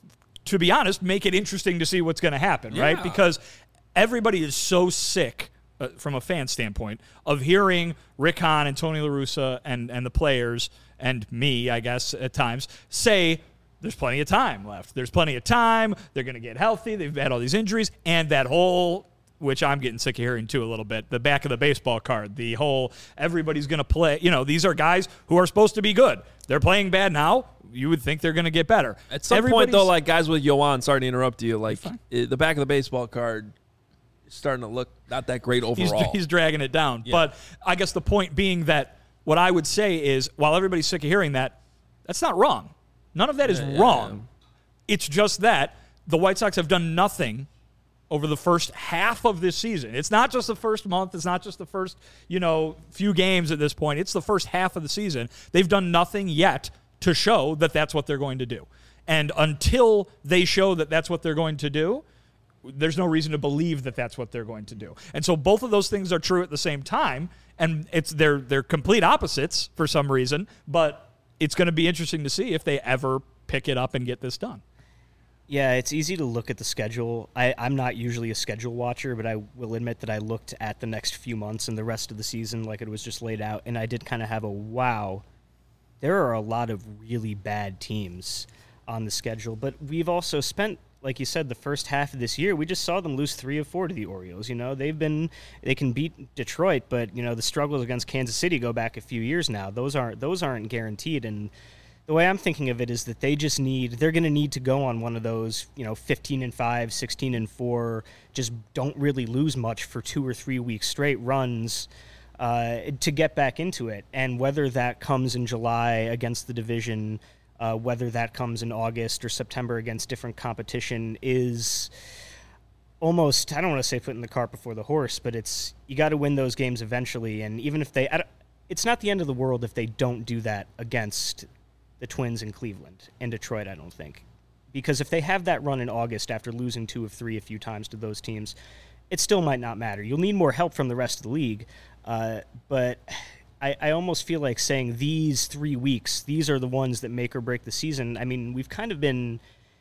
to be honest make it interesting to see what's going to happen, right? Yeah. Because everybody is so sick uh, from a fan standpoint of hearing Rick Hahn and Tony La Russa and and the players and me, I guess at times say there's plenty of time left. There's plenty of time. They're going to get healthy. They've had all these injuries and that whole which I'm getting sick of hearing too a little bit, the back of the baseball card, the whole everybody's going to play. You know, these are guys who are supposed to be good. They're playing bad now. You would think they're going to get better. At some point, Everybody's- though, like guys with Yoan, sorry to interrupt you, like it, the back of the baseball card is starting to look not that great he's, overall. he's dragging it down. Yeah. But I guess the point being that what I would say is while everybody's sick of hearing that, that's not wrong. None of that is Yeah, yeah, wrong. It's just that the White Sox have done nothing over the first half of this season. It's not just the first month. It's not just the first, you know, few games at this point. It's the first half of the season. They've done nothing yet to show that that's what they're going to do. And until they show that that's what they're going to do, there's no reason to believe that that's what they're going to do. And so both of those things are true at the same time, and it's they're they're complete opposites for some reason, but it's going to be interesting to see if they ever pick it up and get this done. Yeah, it's easy to look at the schedule. I, I'm not usually a schedule watcher, but I will admit that I looked at the next few months and the rest of the season like it was just laid out, and I did kind of have a wow. There are a lot of really bad teams on the schedule, but we've also spent, like you said, the first half of this year, we just saw them lose three of four to the Orioles. You know, they've been, they can beat Detroit, but, you know, the struggles against Kansas City go back a few years now. Those aren't, those aren't guaranteed, and the way I'm thinking of it is that they just need, they're going to need to go on one of those, you know, fifteen and five, sixteen and four, just don't really lose much for two or three weeks straight runs uh, to get back into it. And whether that comes in July against the division, uh, whether that comes in August or September against different competition is almost, I don't want to say putting the cart before the horse, but it's, you got to win those games eventually. And even if they, I don't, it's not the end of the world if they don't do that against the Twins in Cleveland and Detroit, I don't think. Because if they have that run in August after losing two of three a few times to those teams, it still might not matter. You'll need more help from the rest of the league. Uh, but I, I almost feel like saying these three weeks, these are the ones that make or break the season. I mean, we've kind of been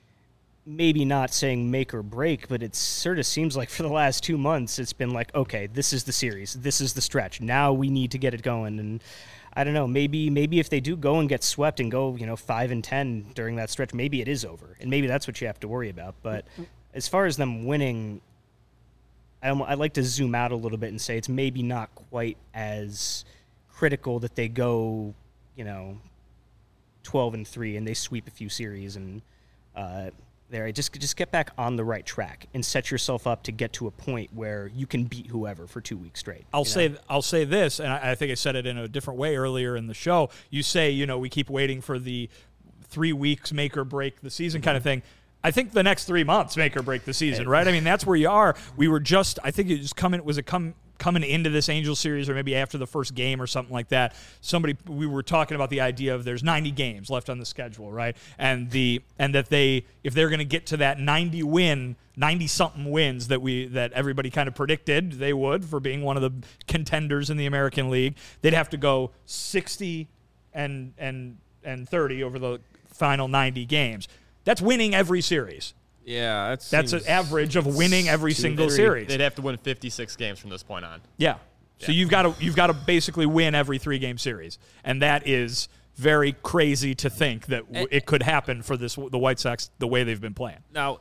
maybe not saying make or break, but it sort of seems like for the last two months, it's been like, okay, this is the series. This is the stretch. Now we need to get it going. And I don't know. Maybe maybe if they do go and get swept and go, you know, five and ten during that stretch, maybe it is over, and maybe that's what you have to worry about. But as far as them winning, I I'd like to zoom out a little bit and say it's maybe not quite as critical that they go, you know, twelve and three and they sweep a few series and uh, there. Just just get back on the right track and set yourself up to get to a point where you can beat whoever for two weeks straight. I'll you say know? I'll say this, and I, I think I said it in a different way earlier in the show. You say, you know, we keep waiting for the three weeks make or break the season kind of thing. I think the next three months make or break the season, right? I mean, that's where you are. We were just, I think it was coming, was it come coming into this Angels series or maybe after the first game or something like that? Somebody, we were talking about the idea of there's ninety games left on the schedule, right? And the and that they, if they're going to get to that ninety win, ninety something wins that we that everybody kind of predicted they would for being one of the contenders in the American League, they'd have to go sixty and and and thirty over the final ninety games. That's winning every series. Yeah, that That's an average of winning every single They'd- series. They'd have to win fifty-six games from this point on. Yeah. So Yeah. you've got to you've got to basically win every three game series, and that is very crazy to think that w- it could happen for this the White Sox the way they've been playing. Now,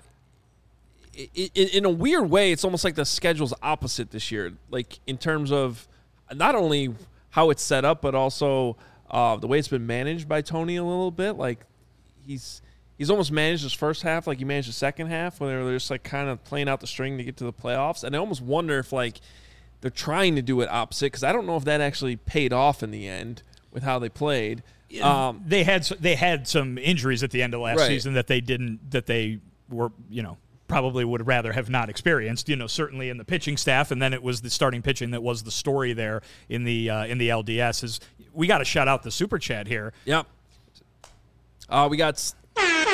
i i in a weird way, it's almost like the schedule's opposite this year. Like in terms of not only how it's set up, but also uh, the way it's been managed by Tony a little bit. Like he's he's almost managed his first half like he managed the second half, when they're just like kind of playing out the string to get to the playoffs. And I almost wonder if like they're trying to do it opposite, because I don't know if that actually paid off in the end with how they played. Um, They had s- they had some injuries at the end of last Right. season that they didn't that they were you know probably would rather have not experienced. You know, certainly in the pitching staff, and then it was the starting pitching that was the story there in the uh, in the L D S. Is we got to shout out the super chat here. Yep. Uh, we got S-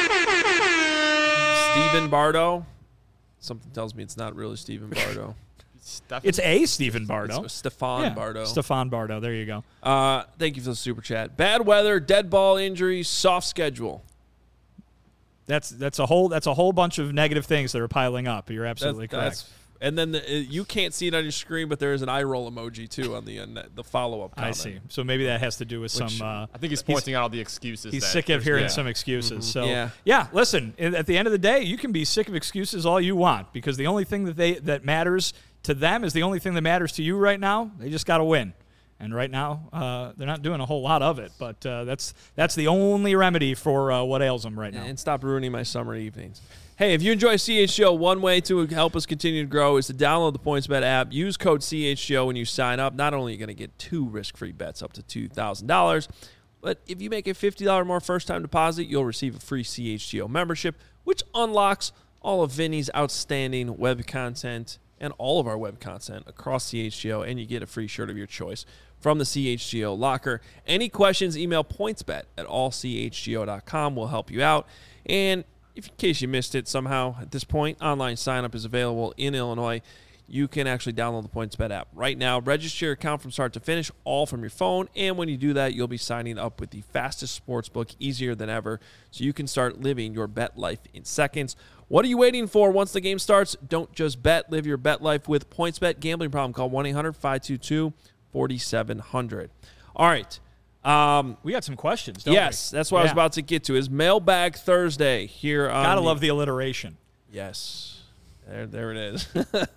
Stephen Bardo. Something tells me it's not really Stephen Bardo. Stuff It's a Stephen Bardo. It's Stefan Yeah, Bardo. Stefan Bardo. There you go. Uh, thank you for the super chat. Bad weather, dead ball injuries, soft schedule. That's that's a whole that's a whole bunch of negative things that are piling up. You're absolutely That's- correct. that's- and then the, uh, you can't see it on your screen, but there is an eye roll emoji too on the end, the follow up. I see. So maybe that has to do with Which- some. Uh, I think he's pointing out all the excuses. He's that sick of there's hearing been. some excuses. So Yeah. yeah, listen. i- At the end of the day, you can be sick of excuses all you want, because the only thing that they that matters to them is the only thing that matters to you right now. They just got to win, and right now uh, they're not doing a whole lot of it. But uh, that's that's the only remedy for uh, what ails them right now. And stop ruining my summer evenings. Hey, if you enjoy C H G O, one way to help us continue to grow is to download the PointsBet app. Use code C H G O when you sign up. Not only are you going to get two risk-free bets up to two thousand dollars, but if you make a fifty dollars or more first-time deposit, you'll receive a free C H G O membership, which unlocks all of Vinny's outstanding web content and all of our web content across C H G O, and you get a free shirt of your choice from the C H G O locker. Any questions, email pointsbet at all c h g o dot com. We'll help you out. And if in case you missed it somehow at this point, online sign-up is available in Illinois. You can actually download the PointsBet app right now. Register your account from start to finish, all from your phone. And when you do that, you'll be signing up with the fastest sports book, easier than ever, so you can start living your bet life in seconds. What are you waiting for? Once the game starts, don't just bet. Live your bet life with PointsBet. Gambling problem, call one eight hundred five two two four seven zero zero. All right. Um, We got some questions, don't yes, we? that's what I was Yeah. about to get to. Is Mailbag Thursday here on Gotta the- love the alliteration. Yes. There, there it is.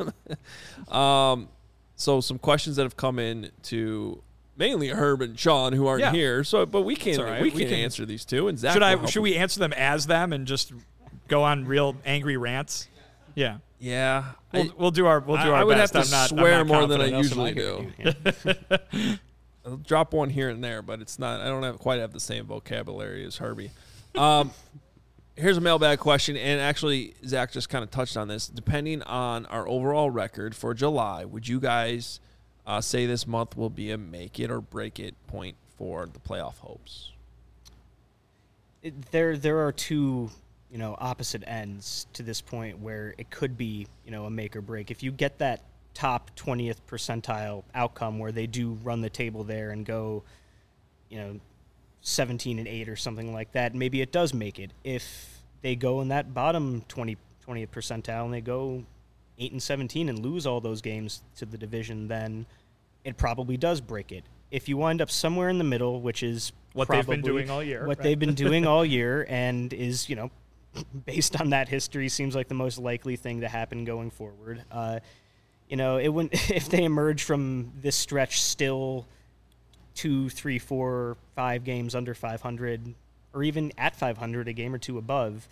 um, so some questions that have come in to mainly Herb and Sean, who aren't Yeah. here. So, but we can It's all right. we We can can- answer these two. And Zach Should will I? help Should we answer them as them and just go on real angry rants? Yeah, Yeah, we'll, I, we'll do our we'll do I- our I would best. have to I'm not, swear I'm not more than I confident. usually Else am I do. gonna I'll drop one here and there, but it's not. I don't have quite have the same vocabulary as Herbie. Um, here's a mailbag question, and actually Zach just kind of touched on this. Depending on our overall record for July, would you guys uh, say this month will be a make it or break it point for the playoff hopes? It, there there are two, you know, opposite ends to this point where it could be, you know, a make or break. If you get that top twentieth percentile outcome where they do run the table there and go, you know, seventeen and eight or something like that, maybe it does make it. If they go in that bottom twenty, twentieth percentile and they go eight and seventeen and lose all those games to the division, then it probably does break it. if you wind up somewhere in the middle, which is What probably they've been doing all year. what right? they've been doing all year, and is, you know, based on that history, seems like the most likely thing to happen going forward. Uh, you know, it wouldn't if they emerge from this stretch still two, three, four, five games under five hundred, or even at five hundred, a game or two above.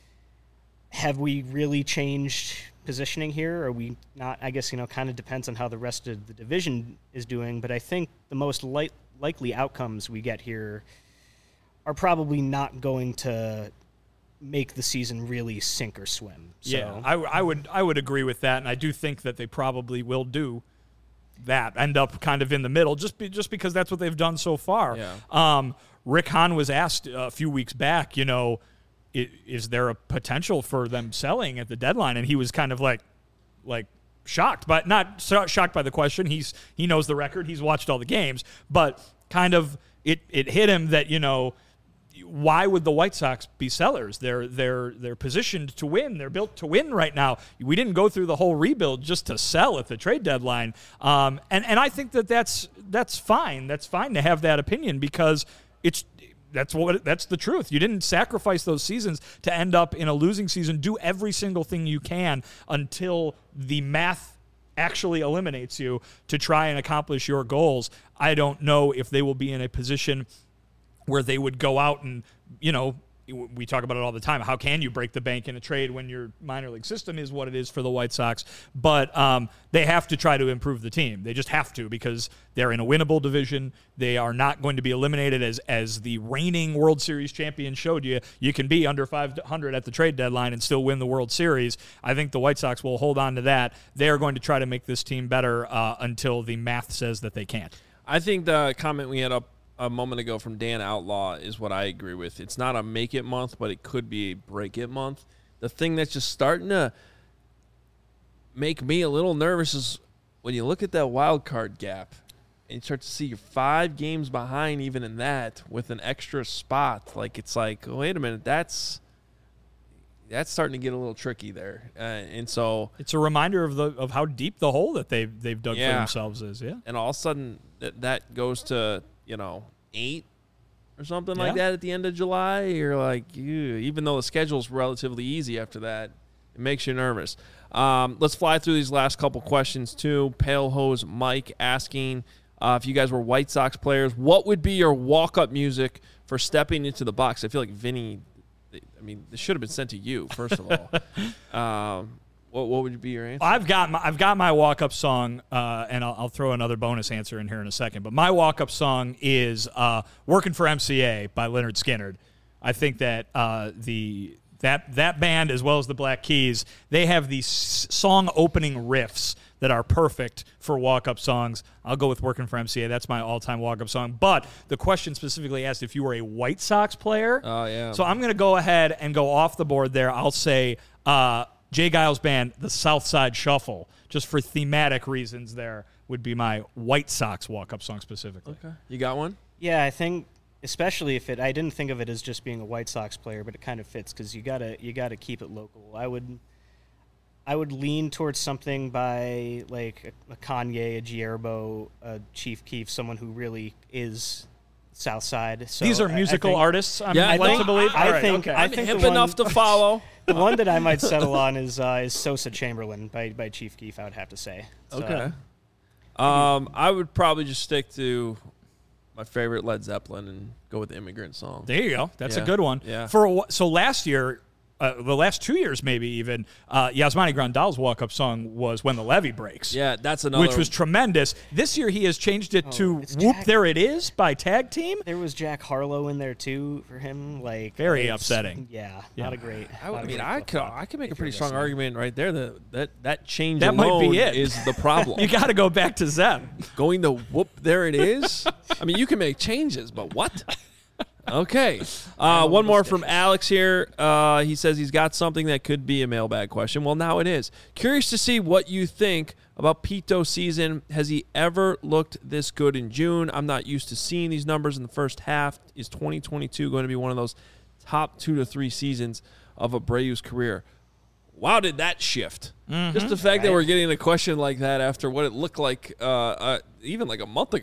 Have we really changed positioning here? Are we not? I guess, you know, kind of depends on how the rest of the division is doing, but I think the most li- likely outcomes we get here are probably not going to make the season really sink or swim. So. Yeah, I, I would I would agree with that, and I do think that they probably will do that, end up kind of in the middle, just be, just because that's what they've done so far. Yeah. Um, Rick Hahn was asked a few weeks back, you know, is, is there a potential for them selling at the deadline? And he was kind of like, like shocked, but not so shocked by the question. He's he knows the record, he's watched all the games, but kind of it it hit him that, you know, why would the White Sox be sellers? They're they're they're positioned to win. They're built to win right now. We didn't go through the whole rebuild just to sell at the trade deadline. Um, and and I think that that's that's fine. That's fine to have that opinion, because it's that's what that's the truth. You didn't sacrifice those seasons to end up in a losing season. Do every single thing you can until the math actually eliminates you to try and accomplish your goals. I don't know if they will be in a position where they would go out and, you know, we talk about it all the time. How can you break the bank in a trade when your minor league system is what it is for the White Sox? But um, they have to try to improve the team. They just have to, because they're in a winnable division. They are not going to be eliminated, as as the reigning World Series champion showed you. You can be under five hundred at the trade deadline and still win the World Series. I think the White Sox will hold on to that. They are going to try to make this team better uh, until the math says that they can't. I think the comment we had up a moment ago from Dan Outlaw is what I agree with. It's not a make it month, but it could be a break it month. The thing that's just starting to make me a little nervous is when you look at that wild card gap and you start to see you're five games behind even in that with an extra spot. Like, it's like, oh, wait a minute, that's that's starting to get a little tricky there. Uh, and so It's a reminder of the of how deep the hole that they've they've dug Yeah. for themselves is. Yeah. and all of a sudden that, that goes to, you know, eight or something like Yeah. that at the end of July. You're like, ew. Even though the schedule's relatively easy after that, it makes you nervous. Um, let's fly through these last couple questions too. Pale Hose Mike asking uh, if you guys were White Sox players, what would be your walk-up music for stepping into the box? I feel like Vinny, I mean, this should have been sent to you, first of all. um, what, what would be your answer? I've got my, I've got my walk-up song, uh, and I'll, I'll throw another bonus answer in here in a second. But my walk-up song is uh, "Working for M C A" by Leonard Skinner. I think that uh, the that that band, as well as the Black Keys, they have these song opening riffs that are perfect for walk-up songs. I'll go with "Working for M C A." That's my all-time walk-up song. But the question specifically asked if you were a White Sox player. Oh, yeah. So I'm going to go ahead and go off the board there. I'll say uh, Jay Giles Band, the South Side Shuffle, just for thematic reasons there, would be my White Sox walk-up song specifically. Okay. You got one? Yeah, I think especially if it, I didn't think of it as just being a White Sox player, but it kind of fits because you gotta you gotta keep it local. I would I would lean towards something by like a, a Kanye, a Gierbo, a Chief Keef, someone who really is South Side. So These are I- I musical think artists, I'm Yeah, I led think- to believe? I All right, think- okay. I I'm think hip the one- enough to follow. The one that I might settle on is uh, is Sosa Chamberlain by, by Chief Keef, I would have to say. So, Okay. Um, I would probably just stick to my favorite Led Zeppelin and go with the Immigrant Song. There you go. That's Yeah. a good one. Yeah. For a, wh- so last year, uh, the last two years maybe even, uh, Yasmani Grandal's walk-up song was "When the Levee Breaks." Yeah, that's another. Which was tremendous. This year he has changed it Oh, to it's "Whoop Jack- There It Is" by Tag Team. There was Jack Harlow in there too for him. Like Very it's- upsetting. Yeah, Yeah. not a great. I, not I a mean, great I could flip-flop I could make a if pretty you're strong listening. argument right there that that, that change That might alone be it. is the problem. You got to go back to Zeb. Going to whoop, there it is. I mean, you can make changes, but what? Okay. Uh, one more from Alex here. Uh, he says he's got something that could be a mailbag question. Well, now it is. Curious to see what you think about Pito's season. Has he ever looked this good in June? I'm not used to seeing these numbers in the first half. Is twenty twenty-two going to be one of those top two to three seasons of Abreu's career? Wow, did that shift? Just the fact that Right. we're getting a question like that after what it looked like uh, uh, even like a month ago.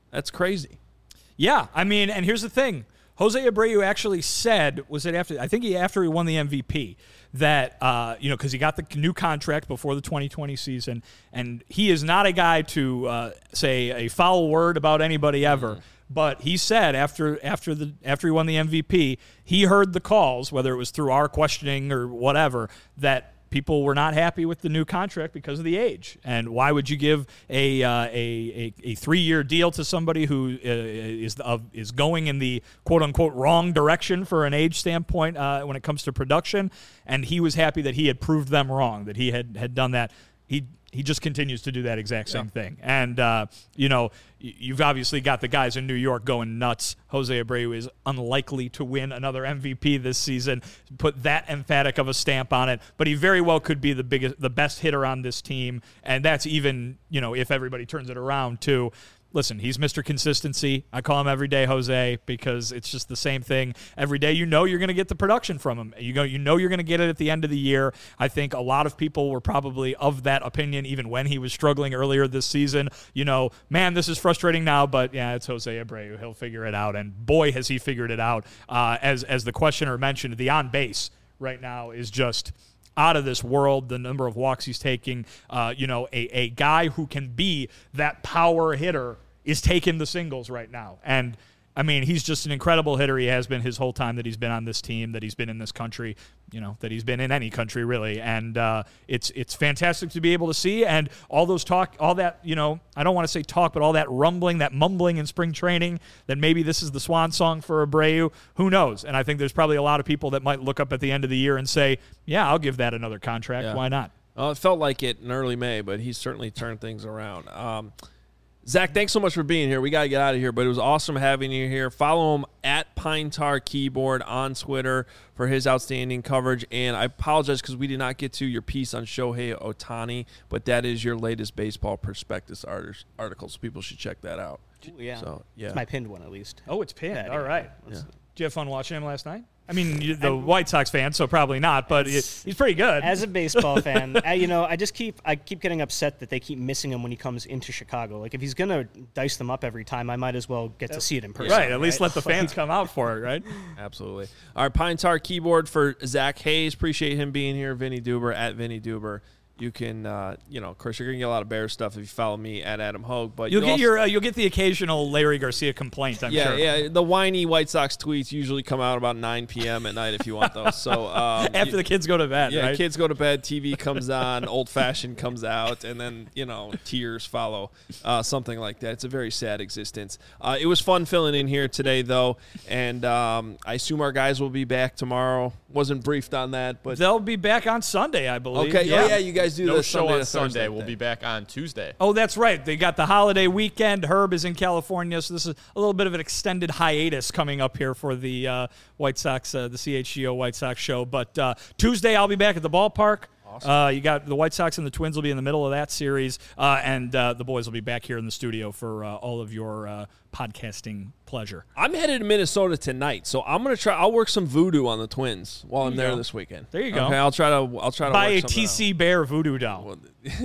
That's crazy. Yeah, I mean, and here's the thing. Jose Abreu actually said, was it after, I think he after he won the M V P, that, uh, you know, because he got the new contract before the twenty twenty season, and he is not a guy to uh, say a foul word about anybody ever. Mm. But he said after after the after he won the M V P, he heard the calls, whether it was through our questioning or whatever, that people were not happy with the new contract because of the age. And why would you give a uh, a, a, a three-year deal to somebody who uh, is uh, is going in the quote-unquote wrong direction for an age standpoint uh, when it comes to production? And he was happy that he had proved them wrong, that he had, had done that. He he just continues to do that exact same yeah. thing. And, uh, you know, you've obviously got the guys in New York going nuts. Jose Abreu is unlikely to win another M V P this season. Put that emphatic of a stamp on it. But he very well could be the biggest, the best hitter on this team. And that's even, you know, if everybody turns it around, too. Listen, he's Mister Consistency. I call him every day Jose because it's just the same thing. Every day you know you're going to get the production from him. You go, you know you're going to get it at the end of the year. I think a lot of people were probably of that opinion even when he was struggling earlier this season. You know, man, this is frustrating now, but yeah, it's Jose Abreu. He'll figure it out, and boy, has he figured it out. Uh, as, as the questioner mentioned, the on-base right now is just out of this world, the number of walks he's taking. Uh, you know, a, a guy who can be that power hitter is taking the singles right now. And, I mean, he's just an incredible hitter. He has been his whole time that he's been on this team, that he's been in this country, you know, that he's been in any country, really. And uh, it's it's fantastic to be able to see. And all those talk, all that, you know, I don't want to say talk, but all that rumbling, that mumbling in spring training, that maybe this is the swan song for Abreu, who knows? And I think there's probably a lot of people that might look up at the end of the year and say, yeah, I'll give that another contract. Yeah. Why not? Well, it felt like it in early May, but he's certainly turned things around. Um Zach, thanks so much for being here. We got to get out of here, but it was awesome having you here. Follow him at Pine Tar Keyboard on Twitter for his outstanding coverage. And I apologize because we did not get to your piece on Shohei Ohtani, but that is your latest baseball prospectus article, so people should check that out. Ooh, yeah. So, yeah. It's my pinned one, at least. Oh, it's pinned. Yeah, All yeah. right. Yeah. Did you have fun watching him last night? I mean, you're the White Sox fan, so probably not, but he's pretty good. As a baseball fan, I, you know, I just keep I keep getting upset that they keep missing him when he comes into Chicago. Like, if he's going to dice them up every time, I might as well get to see it in person. Right, at least let the fans come out for it, right? Absolutely. All right, Pine Tar Keyboard for Zach Hayes. Appreciate him being here. Vinny Duber at Vinny Duber. You can, uh, you know, of course, you're gonna get a lot of Bears stuff if you follow me at Adam Hogue. But you'll you get also, your, uh, you'll get the occasional Larry Garcia complaint. I'm yeah, sure. Yeah, the whiny White Sox tweets usually come out about nine p.m. at night if you want those. So um, after you, the kids go to bed, yeah, right? kids go to bed, T V comes on, Old Fashioned comes out, and then you know tears follow, uh, something like that. It's a very sad existence. Uh, it was fun filling in here today, though, and um, I assume our guys will be back tomorrow. Wasn't briefed on that, but they'll be back on Sunday, I believe. Okay, yeah, yeah, you guys do no the show Sunday on to Sunday. Thursday We'll thing. be back on Tuesday. Oh, that's right. They got the holiday weekend. Herb is in California, so this is a little bit of an extended hiatus coming up here for the uh, White Sox, uh, the C H G O White Sox show. But uh, Tuesday, I'll be back at the ballpark. Awesome. Uh, you got the White Sox and the Twins will be in the middle of that series, uh, and uh, the boys will be back here in the studio for uh, all of your uh, podcasting pleasure. I'm headed to Minnesota tonight, so I'm gonna try. I'll work some voodoo on the Twins while There I'm you there go. this weekend. There you go. Okay, I'll try to. I'll try to Buy work a something T C out. Bear voodoo doll. Well,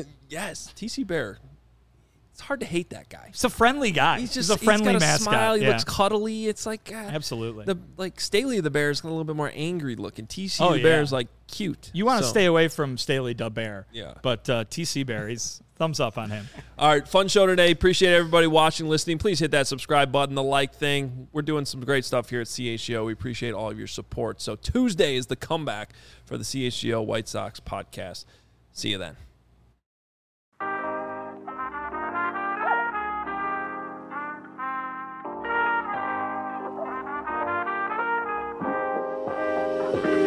yes, T C Bear. It's hard to hate that guy. He's a friendly guy. He's just he's a friendly he's got a mascot. smile. He yeah. looks cuddly. It's like uh, Absolutely. the like Staley the Bear is a little bit more angry looking. T C Oh, the Bear yeah. is like cute. You want to So- stay away from Staley the Bear. Yeah. But uh, T C Bear, he's thumbs up on him. All right, fun show today. Appreciate everybody watching, listening. Please hit that subscribe button, the like thing. We're doing some great stuff here at C H G O. We appreciate all of your support. So Tuesday is the comeback for the C H G O White Sox podcast. See you then. Thank you.